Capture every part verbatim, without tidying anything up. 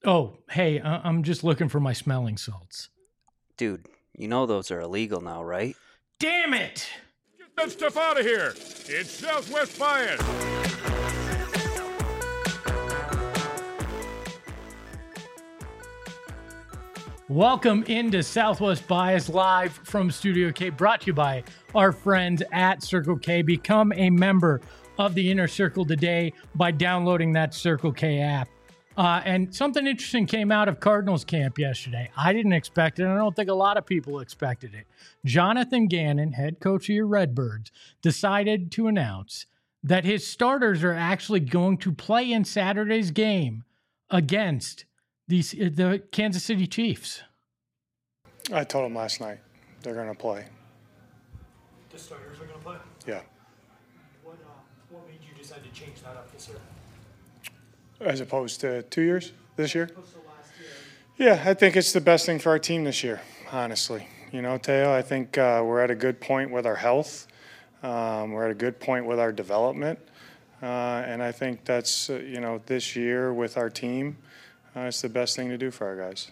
Oh, hey, I- I'm just looking for my smelling salts. Dude, you know those are illegal now, right? Damn it! Get that stuff out of here! It's Southwest Bias! Welcome into Southwest Bias live from Studio K, brought to you by our friends at Circle K. Become a member of the Inner Circle today by downloading that Circle K app. Uh, and something interesting came out of Cardinals camp yesterday. I didn't expect it, and I don't think a lot of people expected it. Jonathan Gannon, head coach of your Redbirds, decided to announce that his starters are actually going to play in Saturday's game against the, the Kansas City Chiefs. I told them last night they're going to play. The starters are going to play? Yeah. What, uh, what made you decide to change that up this year? As opposed to two years this year? Opposed to last year? Yeah, I think it's the best thing for our team this year, honestly. You know, Teo, I think uh, we're at a good point with our health. Um, we're at a good point with our development. Uh, and I think that's, uh, you know, this year with our team, uh, it's the best thing to do for our guys.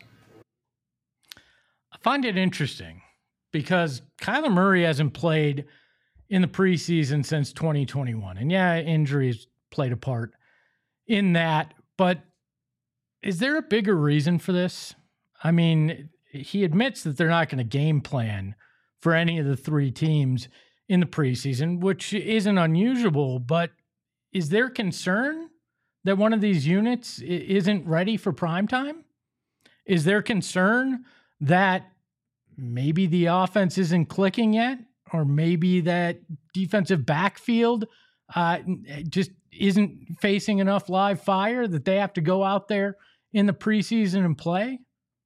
I find it interesting because Kyler Murray hasn't played in the preseason since twenty twenty-one. And yeah, injuries played a part in that, but is there a bigger reason for this? I mean, he admits that they're not going to game plan for any of the three teams in the preseason, which isn't unusual, but is there concern that one of these units isn't ready for prime time? Is there concern that maybe the offense isn't clicking yet, or maybe that defensive backfield uh, just isn't facing enough live fire that they have to go out there in the preseason and play?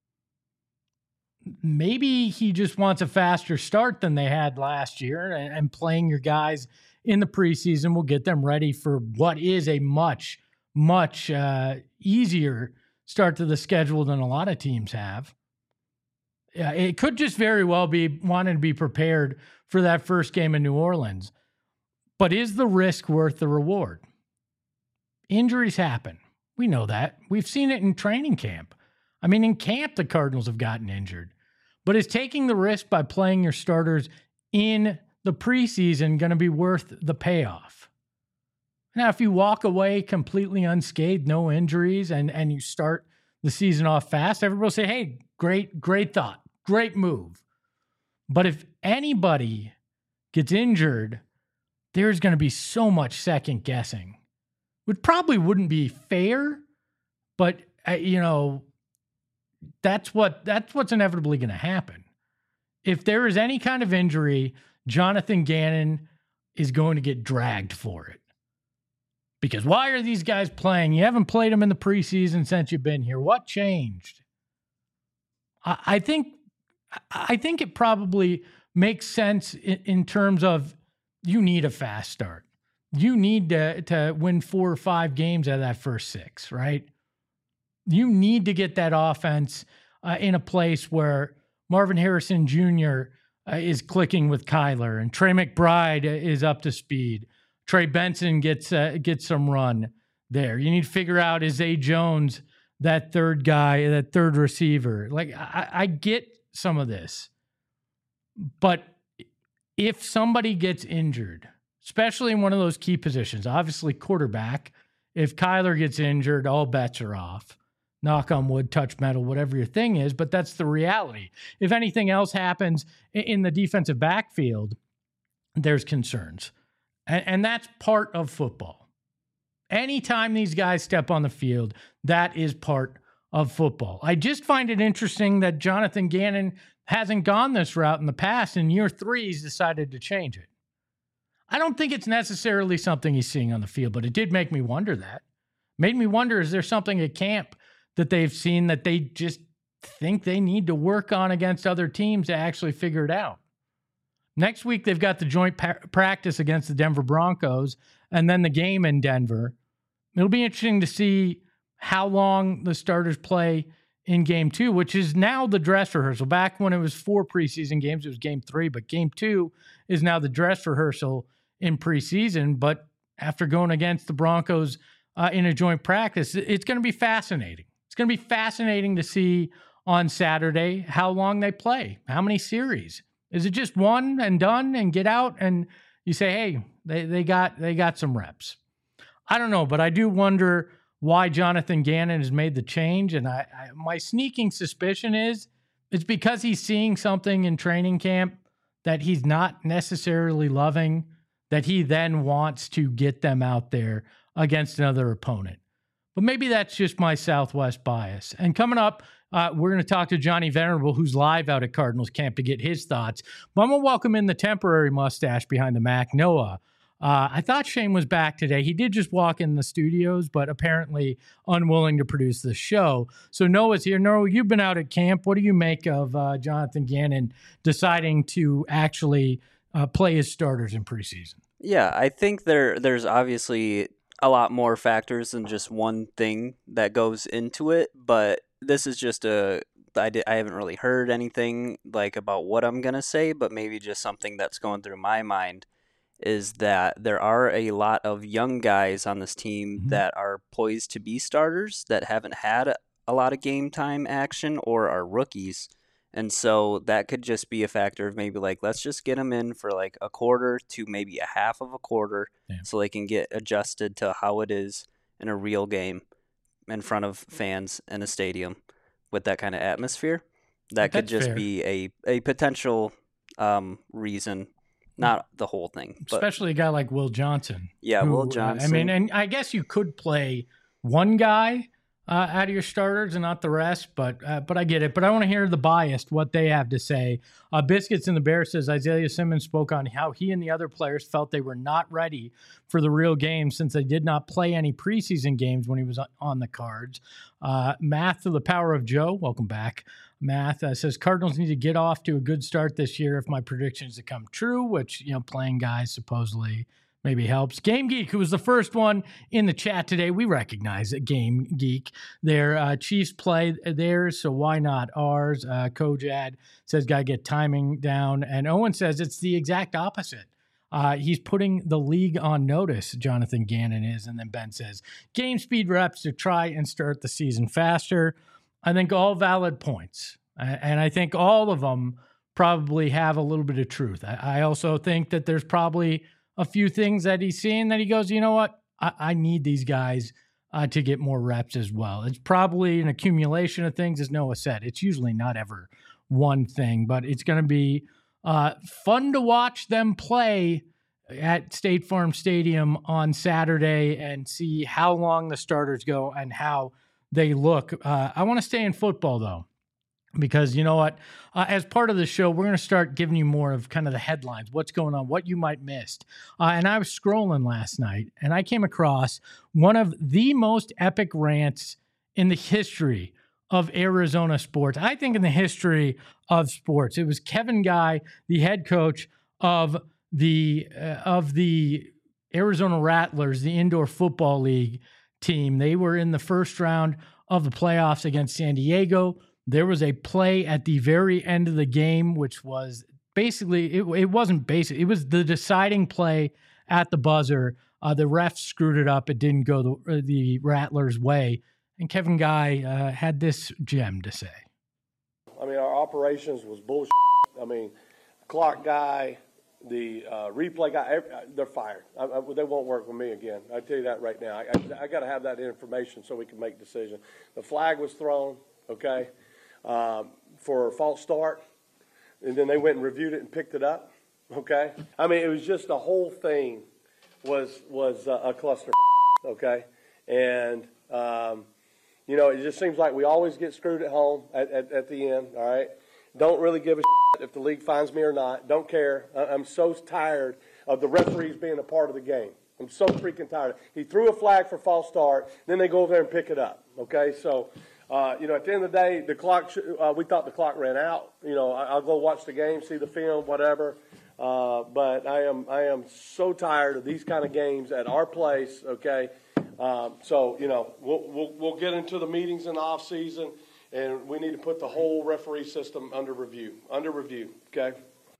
Maybe he just wants a faster start than they had last year, and, and playing your guys in the preseason will get them ready for what is a much, much uh, easier start to the schedule than a lot of teams have. Yeah, it could just very well be wanting to be prepared for that first game in New Orleans. But is the risk worth the reward? Injuries happen. We know that. We've seen it in training camp. I mean, in camp, the Cardinals have gotten injured. But is taking the risk by playing your starters in the preseason going to be worth the payoff? Now, if you walk away completely unscathed, no injuries, and, and you start the season off fast, everybody will say, hey, great, great thought, great move. But if anybody gets injured, there's going to be so much second guessing. It probably wouldn't be fair, but uh, you know, that's what that's what's inevitably going to happen. If there is any kind of injury, Jonathan Gannon is going to get dragged for it. Because why are these guys playing? You haven't played them in the preseason since you've been here. What changed? I, I think I think it probably makes sense in, in terms of you need a fast start. You need to, to win four or five games out of that first six, right? You need to get that offense uh, in a place where Marvin Harrison Junior Uh, is clicking with Kyler, and Trey McBride is up to speed. Trey Benson gets uh, gets some run there. You need to figure out, is Zay Jones that third guy, that third receiver? Like, I, I get some of this, but if somebody gets injured, especially in one of those key positions, obviously quarterback, if Kyler gets injured, all bets are off. Knock on wood, touch metal, whatever your thing is, but that's the reality. If anything else happens in the defensive backfield, there's concerns. And, and that's part of football. Anytime these guys step on the field, that is part of football. I just find it interesting that Jonathan Gannon hasn't gone this route in the past. In year three, he's decided to change it. I don't think it's necessarily something he's seeing on the field, but it did make me wonder that. Made me wonder, is there something at camp that they've seen that they just think they need to work on against other teams to actually figure it out? Next week, they've got the joint pa- practice against the Denver Broncos and then the game in Denver. It'll be interesting to see how long the starters play in game two, which is now the dress rehearsal. Back when it was four preseason games, it was game three, but game two is now the dress rehearsal in preseason. But after going against the Broncos uh, in a joint practice, it's going to be fascinating. It's going to be fascinating to see on Saturday how long they play, how many series. Is it just one and done and get out and you say, hey, they, they got they got some reps? I don't know, but I do wonder why Jonathan Gannon has made the change. And I, I my sneaking suspicion is it's because he's seeing something in training camp that he's not necessarily loving, that he then wants to get them out there against another opponent. But maybe that's just my Southwest bias. And coming up, uh, we're going to talk to Johnny Venerable, who's live out at Cardinals camp, to get his thoughts. But I'm going to welcome in the temporary mustache behind the Mac, Noah. Uh, I thought Shane was back today. He did just walk in the studios, but apparently unwilling to produce the show. So Noah's here. Noah, you've been out at camp. What do you make of uh, Jonathan Gannon deciding to actually uh, play his starters in preseason? Yeah, I think there there's obviously a lot more factors than just one thing that goes into it, but this is just a I, did, I haven't really heard anything like about what I'm going to say, but maybe just something that's going through my mind is that there are a lot of young guys on this team mm-hmm. that are poised to be starters that haven't had a lot of game time action or are rookies. And so that could just be a factor of maybe like, let's just get them in for like a quarter to maybe a half of a quarter yeah. so they can get adjusted to how it is in a real game in front of fans in a stadium with that kind of atmosphere. That could just fair. be a, a potential um, reason, not the whole thing. But, especially a guy like Will Johnson. Yeah, who, Will Johnson. I mean, and I guess you could play one guy Uh, out of your starters and not the rest, but uh, but I get it. But I want to hear the biased, what they have to say. Uh, Biscuits in the Bear says Isaiah Simmons spoke on how he and the other players felt they were not ready for the real game since they did not play any preseason games when he was on the Cards. Uh, Math to the Power of Joe, welcome back. Math uh, says Cardinals need to get off to a good start this year if my predictions to come true, which, you know, playing guys supposedly maybe helps. Game Geek, who was the first one in the chat today. We recognize it, Game Geek. Their uh, Chiefs play theirs, so why not ours? Uh, Kojad says, got to get timing down. And Owen says it's the exact opposite. Uh, he's putting the league on notice, Jonathan Gannon is. And then Ben says, game speed reps to try and start the season faster. I think all valid points. And I think all of them probably have a little bit of truth. I, I also think that there's probably a few things that he's seeing that he goes, you know what, I, I need these guys uh, to get more reps as well. It's probably an accumulation of things, as Noah said. It's usually not ever one thing, but it's going to be uh, fun to watch them play at State Farm Stadium on Saturday and see how long the starters go and how they look. Uh, I want to stay in football, though. Because you know what, uh, as part of the show, we're going to start giving you more of kind of the headlines, what's going on, what you might missed. Uh, and I was scrolling last night, and I came across one of the most epic rants in the history of Arizona sports. I think in the history of sports. It was Kevin Guy, the head coach of the uh, of the Arizona Rattlers, the indoor football league team. They were in the first round of the playoffs against San Diego. There was a play at the very end of the game, which was basically, it, it wasn't basic. It was the deciding play at the buzzer. Uh, the refs screwed it up. It didn't go the, the Rattlers' way. And Kevin Guy uh, had this gem to say. I mean, our operations was bullshit. I mean, clock guy, the uh, replay guy, every, they're fired. I, I, they won't work with me again. I tell you that right now. I, I, I got to have that information so we can make decisions. The flag was thrown, okay? Um, for a false start, and then they went and reviewed it and picked it up. Okay, I mean it was just the whole thing was was uh, a cluster. Okay, and um, you know it just seems like we always get screwed at home at, at, at the end. All right, don't really give a shit if the league finds me or not. Don't care. I'm so tired of the referees being a part of the game. I'm so freaking tired. He threw a flag for false start, then they go over there and pick it up. Okay, so. Uh, you know, at the end of the day, the clock. Sh- uh, we thought the clock ran out. You know, I- I'll go watch the game, see the film, whatever. Uh, but I am, I am so tired of these kind of games at our place. Okay, um, so you know, we'll, we'll we'll get into the meetings in the off season, and we need to put the whole referee system under review. Under review. Okay.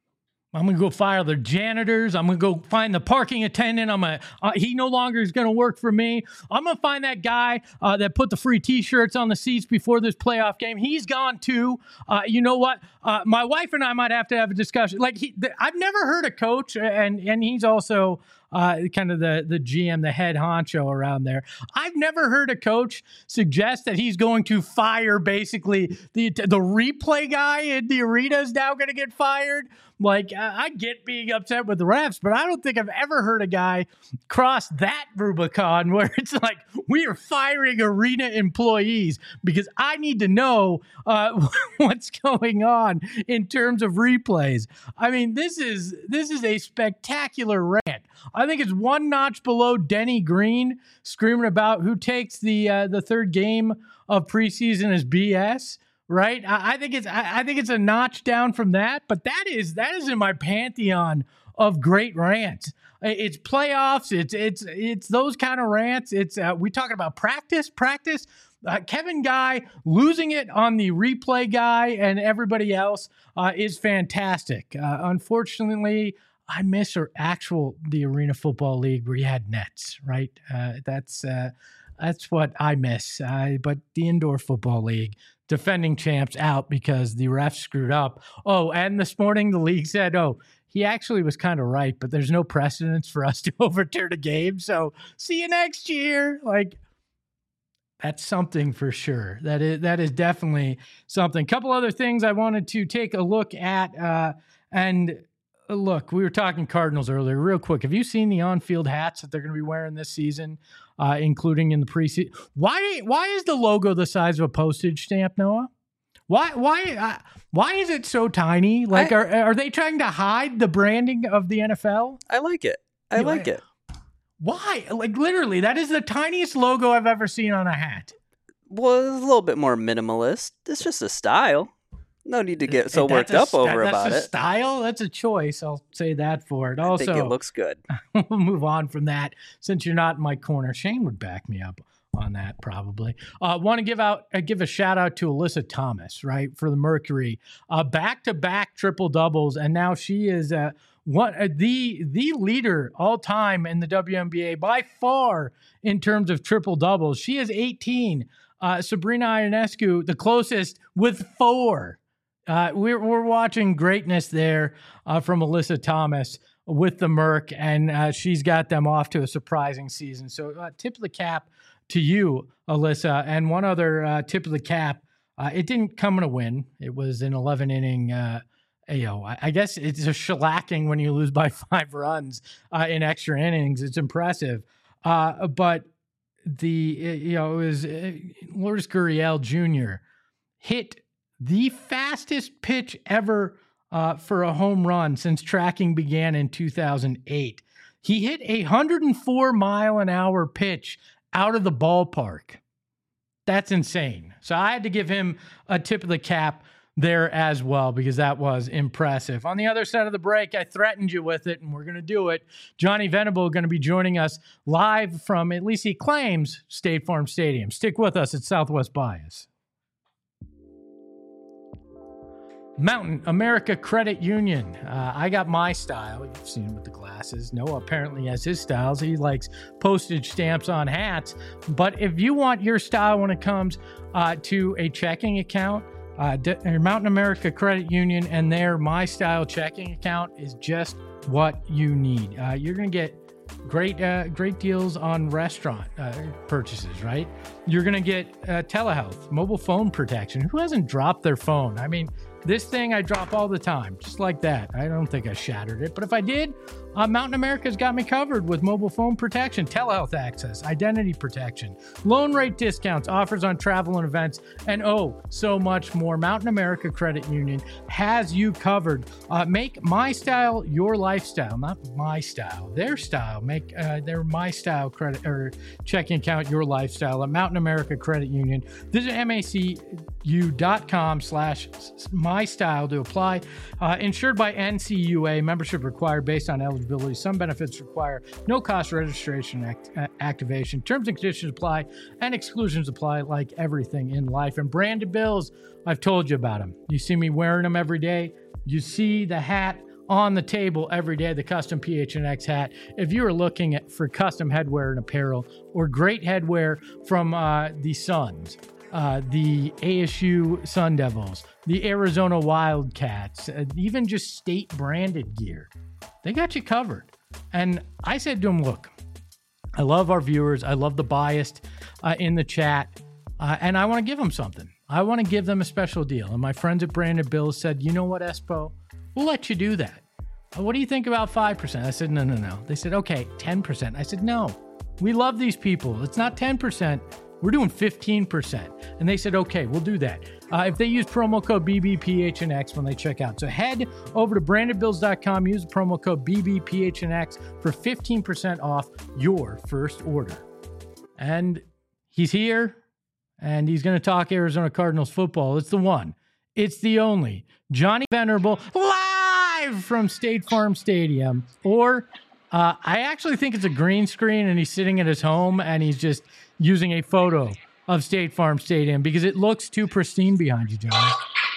I'm going to go fire the janitors. I'm going to go find the parking attendant. I'm gonna, uh, he no longer is going to work for me. I'm going to find that guy uh, that put the free T-shirts on the seats before this playoff game. He's gone too. Uh, you know what? Uh, my wife and I might have to have a discussion. Like he, the, I've never heard a coach, and and he's also uh, kind of the, the G M, the head honcho around there. I've never heard a coach suggest that he's going to fire basically the the replay guy in the arena is now going to get fired. Like, I get being upset with the refs, but I don't think I've ever heard a guy cross that Rubicon where it's like, we are firing arena employees because I need to know uh, what's going on in terms of replays. I mean, this is this is a spectacular rant. I think it's one notch below Denny Green screaming about who takes the uh, the third game of preseason as B S. Right, I, I think it's I, I think it's a notch down from that, but that is that is in my pantheon of great rants. It's playoffs. It's it's it's those kind of rants. It's uh, we talking about practice, practice. Uh, Kevin Guy losing it on the replay guy and everybody else uh, is fantastic. Uh, unfortunately, I miss our actual the Arena Football League where you had nets. Right, uh, that's uh, that's what I miss. Uh, but the Indoor Football League. Defending champs out because the refs screwed up. Oh, and this morning the league said, oh, he actually was kind of right, but there's no precedence for us to overturn a game. So see you next year. Like, that's something for sure. That is that is definitely something. Couple other things I wanted to take a look at. Uh, and look, we were talking Cardinals earlier. Real quick, have you seen the on-field hats that they're going to be wearing this season? Uh, including in the preseason. Why? Why is the logo the size of a postage stamp, Noah? Why? Why? Uh, why is it so tiny? Like, I, are are they trying to hide the branding of the N F L? I like it. I yeah, like it. Why? Like, literally, that is the tiniest logo I've ever seen on a hat. Well, it's a little bit more minimalist. It's just a style. No need to get so worked a, up over that, about that's a it. Style? That's a choice. I'll say that for it. I also, think it looks good. We'll move on from that since you're not in my corner. Shane would back me up on that probably. Uh, want to give out uh, give a shout out to Alyssa Thomas, right, for the Mercury. Uh, back-to-back triple doubles, and now she is uh, one uh, the the leader all time in the W N B A by far in terms of triple doubles. She is eighteen. Uh, Sabrina Ionescu, the closest with four. Uh, we're we're watching greatness there uh, from Alyssa Thomas with the Merc, and uh, she's got them off to a surprising season. So uh, tip of the cap to you, Alyssa. And one other uh, tip of the cap, uh, it didn't come in a win. It was an eleven inning, uh, you know, I, I guess it's a shellacking when you lose by five runs uh, in extra innings. It's impressive. Uh, but the, you know, it was uh, Lourdes Gurriel Junior hit the fastest pitch ever uh, for a home run since tracking began in two thousand eight. He hit a one hundred four mile an hour pitch out of the ballpark. That's insane. So I had to give him a tip of the cap there as well because that was impressive. On the other side of the break, I threatened you with it, and we're going to do it. Johnny Venable going to be joining us live from, at least he claims, State Farm Stadium. Stick with us at Southwest Bias. Mountain America Credit Union. Uh, I got my style. You've seen him with the glasses. Noah apparently has his styles. He likes postage stamps on hats. But if you want your style when it comes uh, to a checking account, uh, D- Mountain America Credit Union and their My Style checking account is just what you need. Uh, you're going to get great uh, great deals on restaurant uh, purchases, right? You're going to get uh, telehealth, mobile phone protection. Who hasn't dropped their phone? I mean, this thing I drop all the time, just like that. I don't think I shattered it, but if I did, uh, Mountain America's got me covered with mobile phone protection, telehealth access, identity protection, loan rate discounts, offers on travel and events, and oh, so much more. Mountain America Credit Union has you covered. Uh, make my style your lifestyle, not my style, their style. Make uh, their my style credit or checking account your lifestyle at Mountain America Credit Union. Visit macu.com slash my style to apply. Uh, insured by N C U A, membership required based on eligibility. Some benefits require no cost registration act- uh, activation. Terms and conditions apply and exclusions apply like everything in life. And branded bills, I've told you about them. You see me wearing them every day. You see the hat on the table every day, the custom P H N X hat. If you are looking at, for custom headwear and apparel or great headwear from uh, the Suns, uh, the A S U Sun Devils, the Arizona Wildcats, uh, even just state branded gear, they got you covered. And I said to him, look, I love our viewers. I love the biased uh, in the chat. Uh, and I want to give them something. I want to give them a special deal. And my friends at Branded Bills said, you know what, Espo? We'll let you do that. Uh, what do you think about five percent? I said, no, no, no. They said, okay, ten percent. I said, no, we love these people. It's not ten percent. We're doing fifteen percent. And they said, okay, we'll do that. Uh, if they use promo code B B P H N X when they check out. So head over to branded bills dot com, use the promo code B B P H N X for fifteen percent off your first order. And he's here, and he's going to talk Arizona Cardinals football. It's the one. It's the only. Johnny Venerable, live from State Farm Stadium. Or uh, I actually think it's a green screen, and he's sitting at his home, and he's just using a photo of State Farm Stadium because it looks too pristine behind you, Johnny.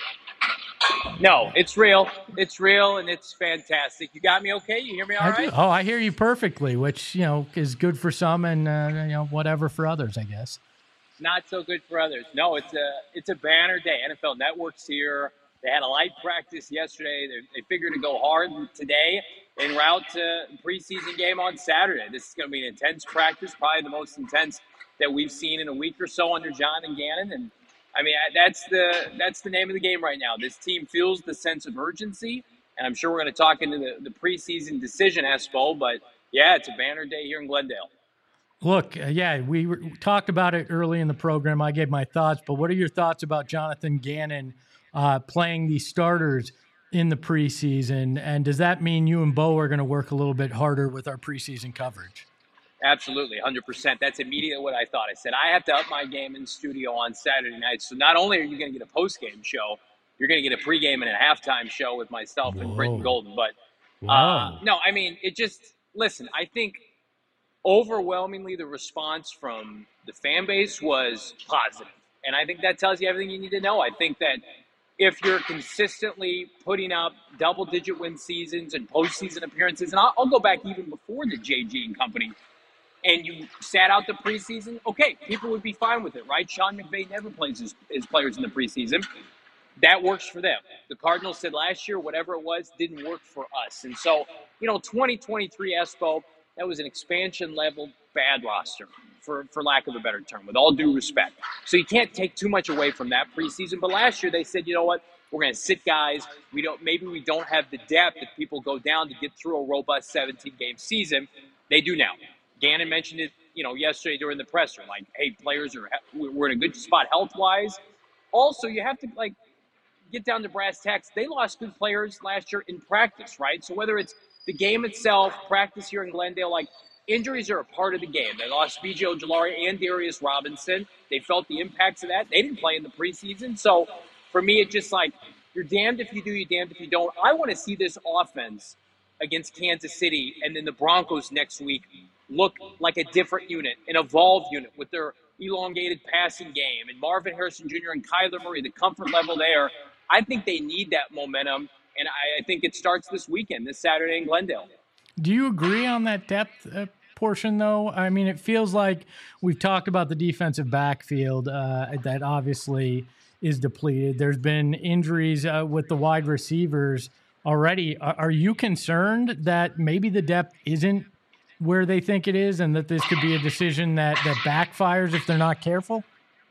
No, it's real. It's real, and it's fantastic. You got me okay? You hear me all I right? do. Oh, I hear you perfectly, which, you know, is good for some and, uh, you know, whatever for others, I guess. Not so good for others. No, it's a it's a banner day. N F L Network's here. They had a light practice yesterday. They, they figured to go hard today en route to preseason game on Saturday. This is going to be an intense practice, probably the most intense that we've seen in a week or so under John and Gannon. And I mean, that's the that's the name of the game right now. This team feels the sense of urgency, and I'm sure we're going to talk into the, the preseason decision, Espo. But yeah, it's a banner day here in Glendale. Look, uh, yeah, we, were, we talked about it early in the program. I gave my thoughts, but what are your thoughts about Jonathan Gannon uh, playing the starters in the preseason? And does that mean you and Bo are going to work a little bit harder with our preseason coverage? Absolutely, one hundred percent. That's immediately what I thought. I said, I have to up my game in studio on Saturday night. So not only are you going to get a post-game show, you're going to get a pregame and a halftime show with myself and Britton Golden. But uh, no, I mean, it just, listen, I think overwhelmingly the response from the fan base was positive. And I think that tells you everything you need to know. I think that if you're consistently putting up double-digit win seasons and postseason appearances, and I'll, I'll go back even before the J G and company, and you sat out the preseason, okay, people would be fine with it, right? Sean McVay never plays his, his players in the preseason. That works for them. The Cardinals said last year, whatever it was, didn't work for us. And so, you know, twenty twenty-three Espo, that was an expansion-level bad roster, for, for lack of a better term, with all due respect. So you can't take too much away from that preseason. But last year they said, you know what, we're going to sit guys. We don't. Maybe we don't have the depth if people go down to get through a robust seventeen-game season. They do now. Gannon mentioned it, you know, yesterday during the presser. Like, hey, players are we're in a good spot health-wise. Also, you have to, like, get down to brass tacks. They lost good players last year in practice, right? So whether it's the game itself, practice here in Glendale, like, injuries are a part of the game. They lost B J Ojulari and Darius Robinson. They felt the impacts of that. They didn't play in the preseason. So for me, it's just like, you're damned if you do, you're damned if you don't. I want to see this offense against Kansas City and then the Broncos next week look like a different unit, an evolved unit with their elongated passing game. And Marvin Harrison Junior and Kyler Murray, the comfort level there, I think they need that momentum. And I, I think it starts this weekend, this Saturday in Glendale. Do you agree on that depth uh, portion, though? I mean, it feels like we've talked about the defensive backfield uh, that obviously is depleted. There's been injuries uh, with the wide receivers already. Are, are you concerned that maybe the depth isn't where they think it is and that this could be a decision that, that backfires if they're not careful?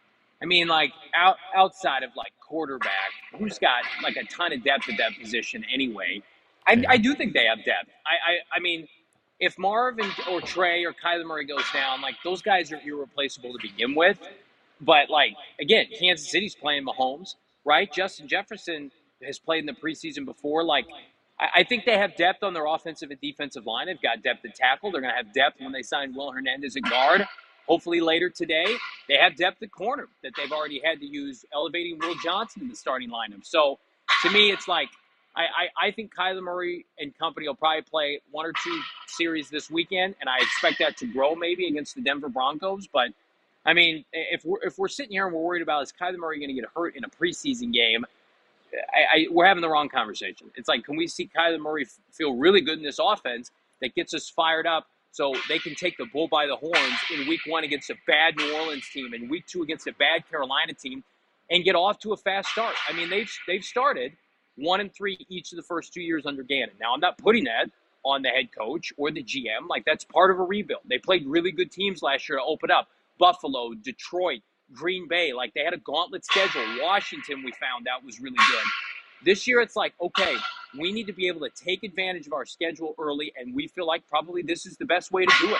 I mean, like, out, outside of, like, quarterback, who's got, like, a ton of depth at that position anyway? I, I do think they have depth. I, I I mean, if Marvin or Trey or Kyler Murray goes down, like, those guys are irreplaceable to begin with. But, like, again, Kansas City's playing Mahomes, right? Justin Jefferson has played in the preseason before. Like, I, I think they have depth on their offensive and defensive line. They've got depth at tackle. They're going to have depth when they sign Will Hernandez at guard. Hopefully later today, they have depth at corner that they've already had to use, elevating Will Johnson in the starting lineup. So, to me, it's like, I, I, I think Kyler Murray and company will probably play one or two series this weekend, and I expect that to grow maybe against the Denver Broncos. But, I mean, if we're, if we're sitting here and we're worried about is Kyler Murray going to get hurt in a preseason game, I, I, we're having the wrong conversation. It's like, can we see Kyler Murray f- feel really good in this offense that gets us fired up so they can take the bull by the horns in week one against a bad New Orleans team and week two against a bad Carolina team and get off to a fast start? I mean, they've they've started one and three each of the first two years under Gannon. Now, I'm not putting that on the head coach or the G M. Like, that's part of a rebuild. They played really good teams last year to open up. Buffalo, Detroit, Green Bay. Like, they had a gauntlet schedule. Washington, we found out, was really good. This year, it's like, okay, we need to be able to take advantage of our schedule early, and we feel like probably this is the best way to do it.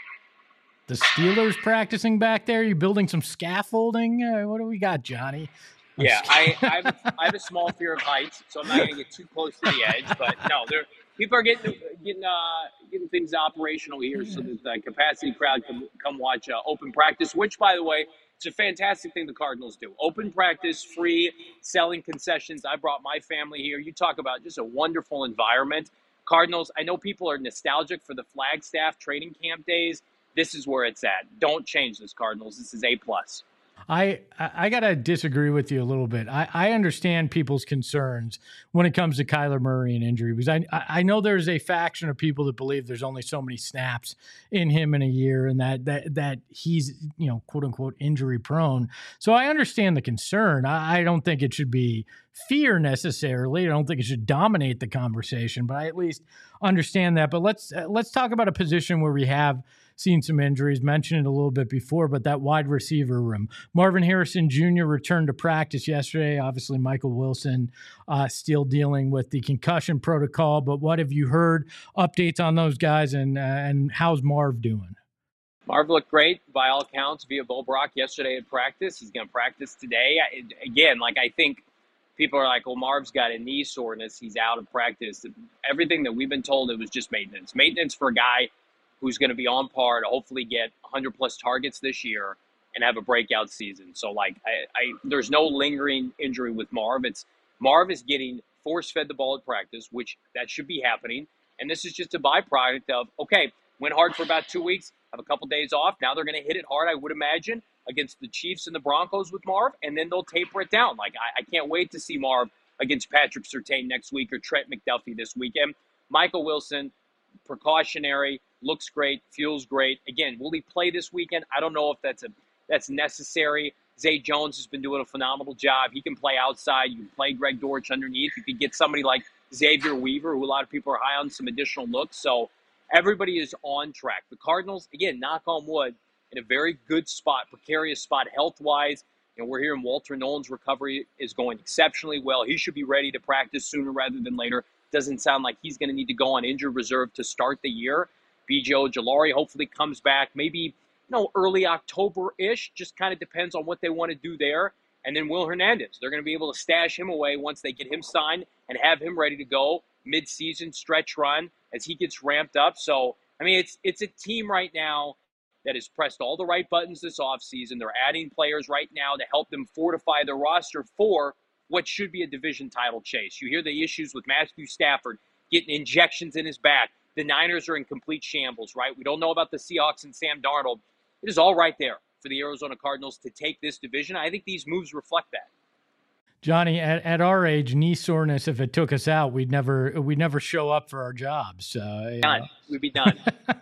The Steelers practicing back there? You building some scaffolding? Uh, what do we got, Johnny? I'm Yeah, I, I, have a, I have a small fear of heights, so I'm not going to get too close to the edge. But no, there people are getting getting uh, getting things operational here, so that the capacity crowd can come watch uh, open practice. Which, by the way, it's a fantastic thing the Cardinals do. Open practice, free, selling concessions. I brought my family here. You talk about just a wonderful environment. Cardinals. I know people are nostalgic for the Flagstaff training camp days. This is where it's at. Don't change this, Cardinals. This is A plus. I, I got to disagree with you a little bit. I, I understand people's concerns when it comes to Kyler Murray and injury, because I I know there's a faction of people that believe there's only so many snaps in him in a year and that that that he's, you know, quote unquote injury prone. So I understand the concern. I, I don't think it should be fear necessarily. I don't think it should dominate the conversation, but I at least understand that. But let's uh, let's talk about a position where we have seen some injuries, mentioned it a little bit before, but that wide receiver room. Marvin Harrison Junior returned to practice yesterday. Obviously, Michael Wilson uh, still dealing with the concussion protocol, but what have you heard? Updates on those guys, and uh, and how's Marv doing? Marv looked great by all accounts via Bo Brock yesterday at practice. He's going to practice today. I, again, like I think people are like, well, Marv's got a knee soreness. He's out of practice. Everything that we've been told, it was just maintenance. Maintenance for a guy who's going to be on par to hopefully get one hundred plus targets this year and have a breakout season. So, like, I, I there's no lingering injury with Marv. It's Marv is getting force-fed the ball at practice, which that should be happening. And this is just a byproduct of, okay, went hard for about two weeks, have a couple days off. Now they're going to hit it hard, I would imagine, against the Chiefs and the Broncos with Marv, and then they'll taper it down. Like, I, I can't wait to see Marv against Patrick Surtain next week or Trent McDuffie this weekend. Michael Wilson, precautionary, looks great, feels great. Again, will he play this weekend? I don't know if that's a that's necessary. Zay Jones has been doing a phenomenal job. He can play outside. You can play Greg Dortch underneath. You could get somebody like Xavier Weaver, who a lot of people are high on, some additional looks. So everybody is on track. The Cardinals, again, knock on wood, in a very good spot, precarious spot health-wise. And we're hearing Walter Nolan's recovery is going exceptionally well. He should be ready to practice sooner rather than later. Doesn't sound like he's going to need to go on injured reserve to start the year. B J Ojulari hopefully comes back maybe, you know, early October-ish. Just kind of depends on what they want to do there. And then Will Hernandez, they're going to be able to stash him away once they get him signed and have him ready to go mid-season stretch run as he gets ramped up. So, I mean, it's it's a team right now that has pressed all the right buttons this offseason. They're adding players right now to help them fortify their roster for what should be a division title chase. You hear the issues with Matthew Stafford getting injections in his back. The Niners are in complete shambles, right? We don't know about the Seahawks and Sam Darnold. It is all right there for the Arizona Cardinals to take this division. I think these moves reflect that. Johnny, at, at our age, knee soreness, if it took us out, we'd never we'd never show up for our jobs. Uh, done. Know. We'd be done.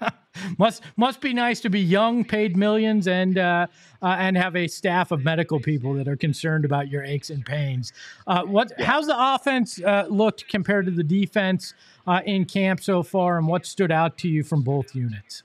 must must be nice to be young, paid millions, and uh, uh, and have a staff of medical people that are concerned about your aches and pains. Uh, what? Yeah. How's the offense uh, looked compared to the defense uh, in camp so far, and what stood out to you from both units?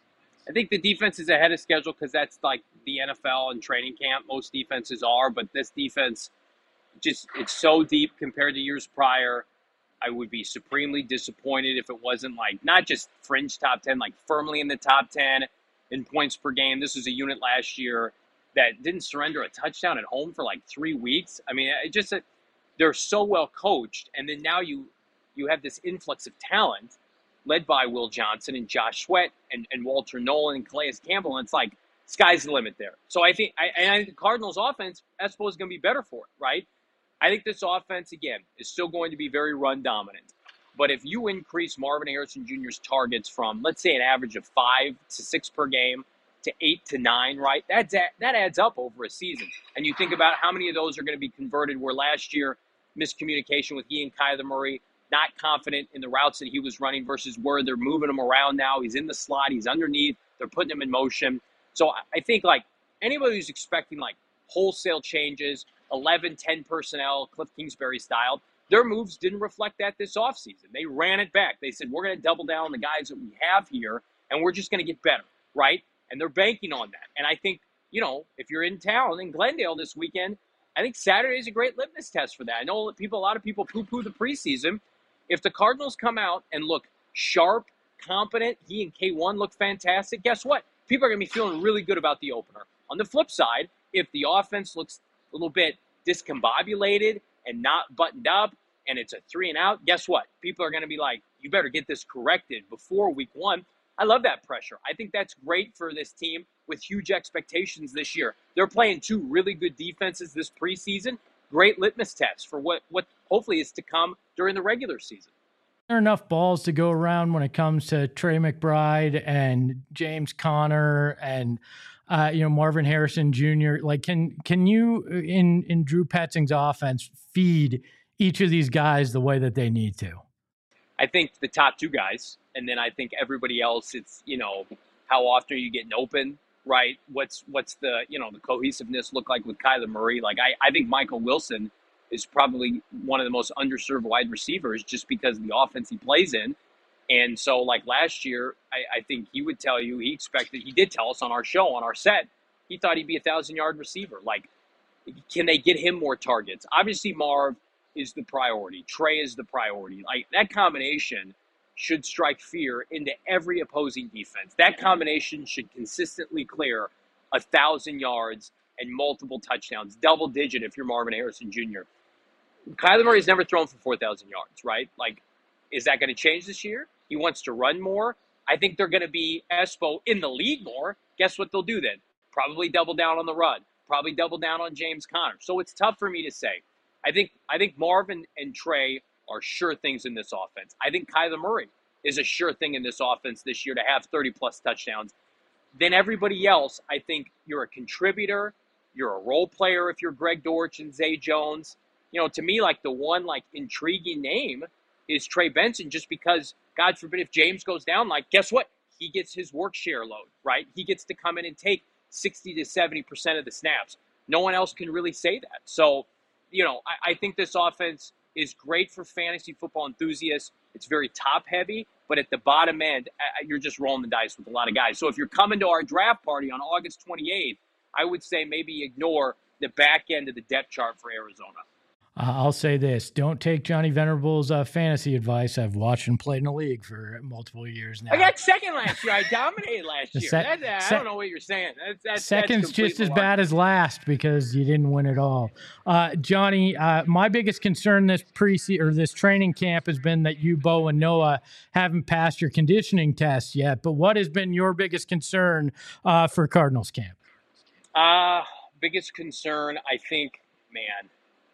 I think the defense is ahead of schedule because that's like the N F L and training camp. Most defenses are, but this defense, just it's so deep compared to years prior. I would be supremely disappointed if it wasn't like not just fringe top ten, like firmly in the top ten in points per game. This was a unit last year that didn't surrender a touchdown at home for like three weeks. I mean, it just they're so well coached, and then now you you have this influx of talent led by Will Johnson and Josh Sweat and, and Walter Nolan and Calais Campbell, and it's like sky's the limit there. So I think I, and I think the Cardinals' offense, I suppose, is going to be better for it, right? I think this offense, again, is still going to be very run dominant. But if you increase Marvin Harrison Junior's targets from, let's say, an average of five to six per game to eight to nine, right, that's, that adds up over a season. And you think about how many of those are going to be converted, where last year miscommunication with he and Kyler Murray, not confident in the routes that he was running versus where they're moving him around now. He's in the slot, he's underneath, they're putting him in motion. So I think like anybody who's expecting like wholesale changes, eleven, ten personnel, Cliff Kingsbury style, their moves didn't reflect that this offseason. They ran it back. They said, we're going to double down on the guys that we have here, and we're just going to get better, right? And they're banking on that. And I think, you know, if you're in town in Glendale this weekend, I think Saturday is a great litmus test for that. I know that people, a lot of people poo-poo the preseason. If the Cardinals come out and look sharp, competent, he and K one look fantastic, guess what? People are going to be feeling really good about the opener. On the flip side, if the offense looks a little bit discombobulated and not buttoned up, and it's a three and out, guess what? People are going to be like, you better get this corrected before week one. I love that pressure. I think that's great for this team with huge expectations this year. They're playing two really good defenses this preseason. Great litmus test for what, what hopefully is to come during the regular season. There are enough balls to go around when it comes to Trey McBride and James Conner and uh, you know, Marvin Harrison Junior Like, can can you in in Drew Petzing's offense feed each of these guys the way that they need to? I think the top two guys, and then I think everybody else. It's, you know, how often are you getting open, right? What's what's the, you know, the cohesiveness look like with Kyler Murray? Like I I think Michael Wilson is probably one of the most underserved wide receivers just because of the offense he plays in. And so, like last year, I, I think he would tell you, he expected, he did tell us on our show, on our set, he thought he'd be a thousand-yard receiver. Like, can they get him more targets? Obviously, Marv is the priority. Trey is the priority. Like, that combination should strike fear into every opposing defense. That combination should consistently clear a thousand yards and multiple touchdowns, double-digit if you're Marvin Harrison Junior Kyler Murray's never thrown for four thousand yards, right? Like, is that going to change this year? He wants to run more. I think they're going to be Espo in the league more. Guess what they'll do then? Probably double down on the run. Probably double down on James Conner. So it's tough for me to say. I think I think Marvin and Trey are sure things in this offense. I think Kyler Murray is a sure thing in this offense this year to have thirty-plus touchdowns. Then everybody else, I think you're a contributor. You're a role player if you're Greg Dortch and Zay Jones. You know, to me, like the one like intriguing name is Trey Benson, just because, God forbid, if James goes down, like, guess what? He gets his work share load, right? He gets to come in and take sixty to seventy percent of the snaps. No one else can really say that. So, you know, I, I think this offense is great for fantasy football enthusiasts. It's very top-heavy, but at the bottom end, you're just rolling the dice with a lot of guys. So if you're coming to our draft party on August twenty-eighth, I would say maybe ignore the back end of the depth chart for Arizona. Uh, I'll say this. Don't take Johnny Venerable's uh, fantasy advice. I've watched him play in the league for multiple years now. I got second last year. I dominated last year. Se- that, uh, se- I don't know what you're saying. That's, that's, Second's that's just as malarkey. bad as last because you didn't win it all. Uh, Johnny, uh, my biggest concern this pre or this training camp has been that you, Bo, and Noah haven't passed your conditioning test yet. But what has been your biggest concern uh, for Cardinals camp? Uh, biggest concern, I think, man,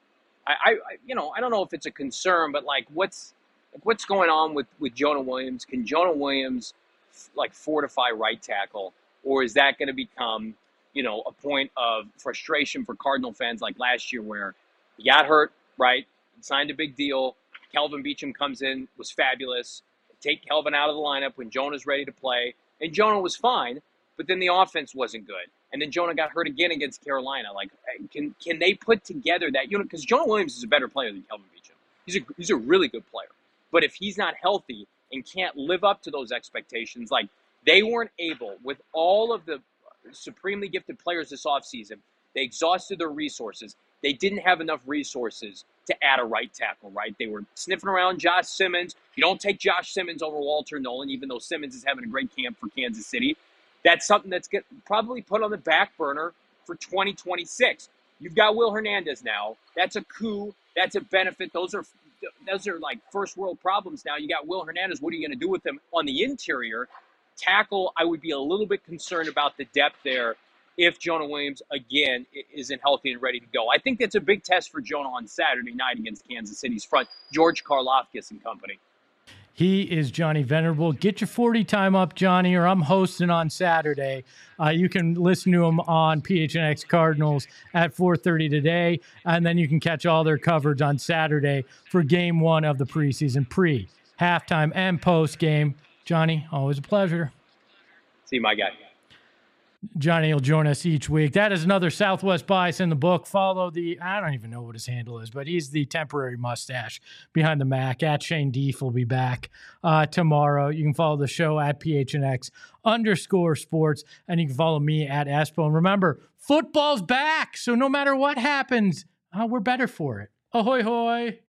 I, I, you know, I don't know if it's a concern, but like, what's, like, what's going on with, with Jonah Williams? Can Jonah Williams like fortify right tackle, or is that going to become, you know, a point of frustration for Cardinal fans like last year where he got hurt, right? Signed a big deal. Kelvin Beachum comes in, was fabulous. Take Kelvin out of the lineup when Jonah's ready to play, and Jonah was fine, but then the offense wasn't good. And then Jonah got hurt again against Carolina. Like, can can they put together that, you know, because Jonah Williams is a better player than Kelvin Beachum. He's a, he's a really good player. But if he's not healthy and can't live up to those expectations, like they weren't able, with all of the supremely gifted players this offseason, they exhausted their resources. They didn't have enough resources to add a right tackle, right? They were sniffing around Josh Simmons. You don't take Josh Simmons over Walter Nolan, even though Simmons is having a great camp for Kansas City. That's something that's get, probably put on the back burner for twenty twenty-six. You've got Will Hernandez now. That's a coup. That's a benefit. Those are those are like first world problems now. You got Will Hernandez. What are you going to do with him on the interior? Tackle, I would be a little bit concerned about the depth there if Jonah Williams, again, isn't healthy and ready to go. I think that's a big test for Jonah on Saturday night against Kansas City's front, George Karlaftis and company. He is Johnny Venerable. Get your forty time up, Johnny, or I'm hosting on Saturday. Uh, you can listen to him on P H N X Cardinals at four thirty today, and then you can catch all their coverage on Saturday for game one of the preseason, pre, halftime, and post game. Johnny, always a pleasure. See you, my guy. Johnny will join us each week. That is another Southwest Bias in the book. Follow the, I don't even know what his handle is, but he's the temporary mustache behind the Mac. At Shane Deef will be back uh, tomorrow. You can follow the show at P H N X underscore sports, and you can follow me at Espo. And remember, football's back, so no matter what happens, uh, we're better for it. Ahoy, hoy.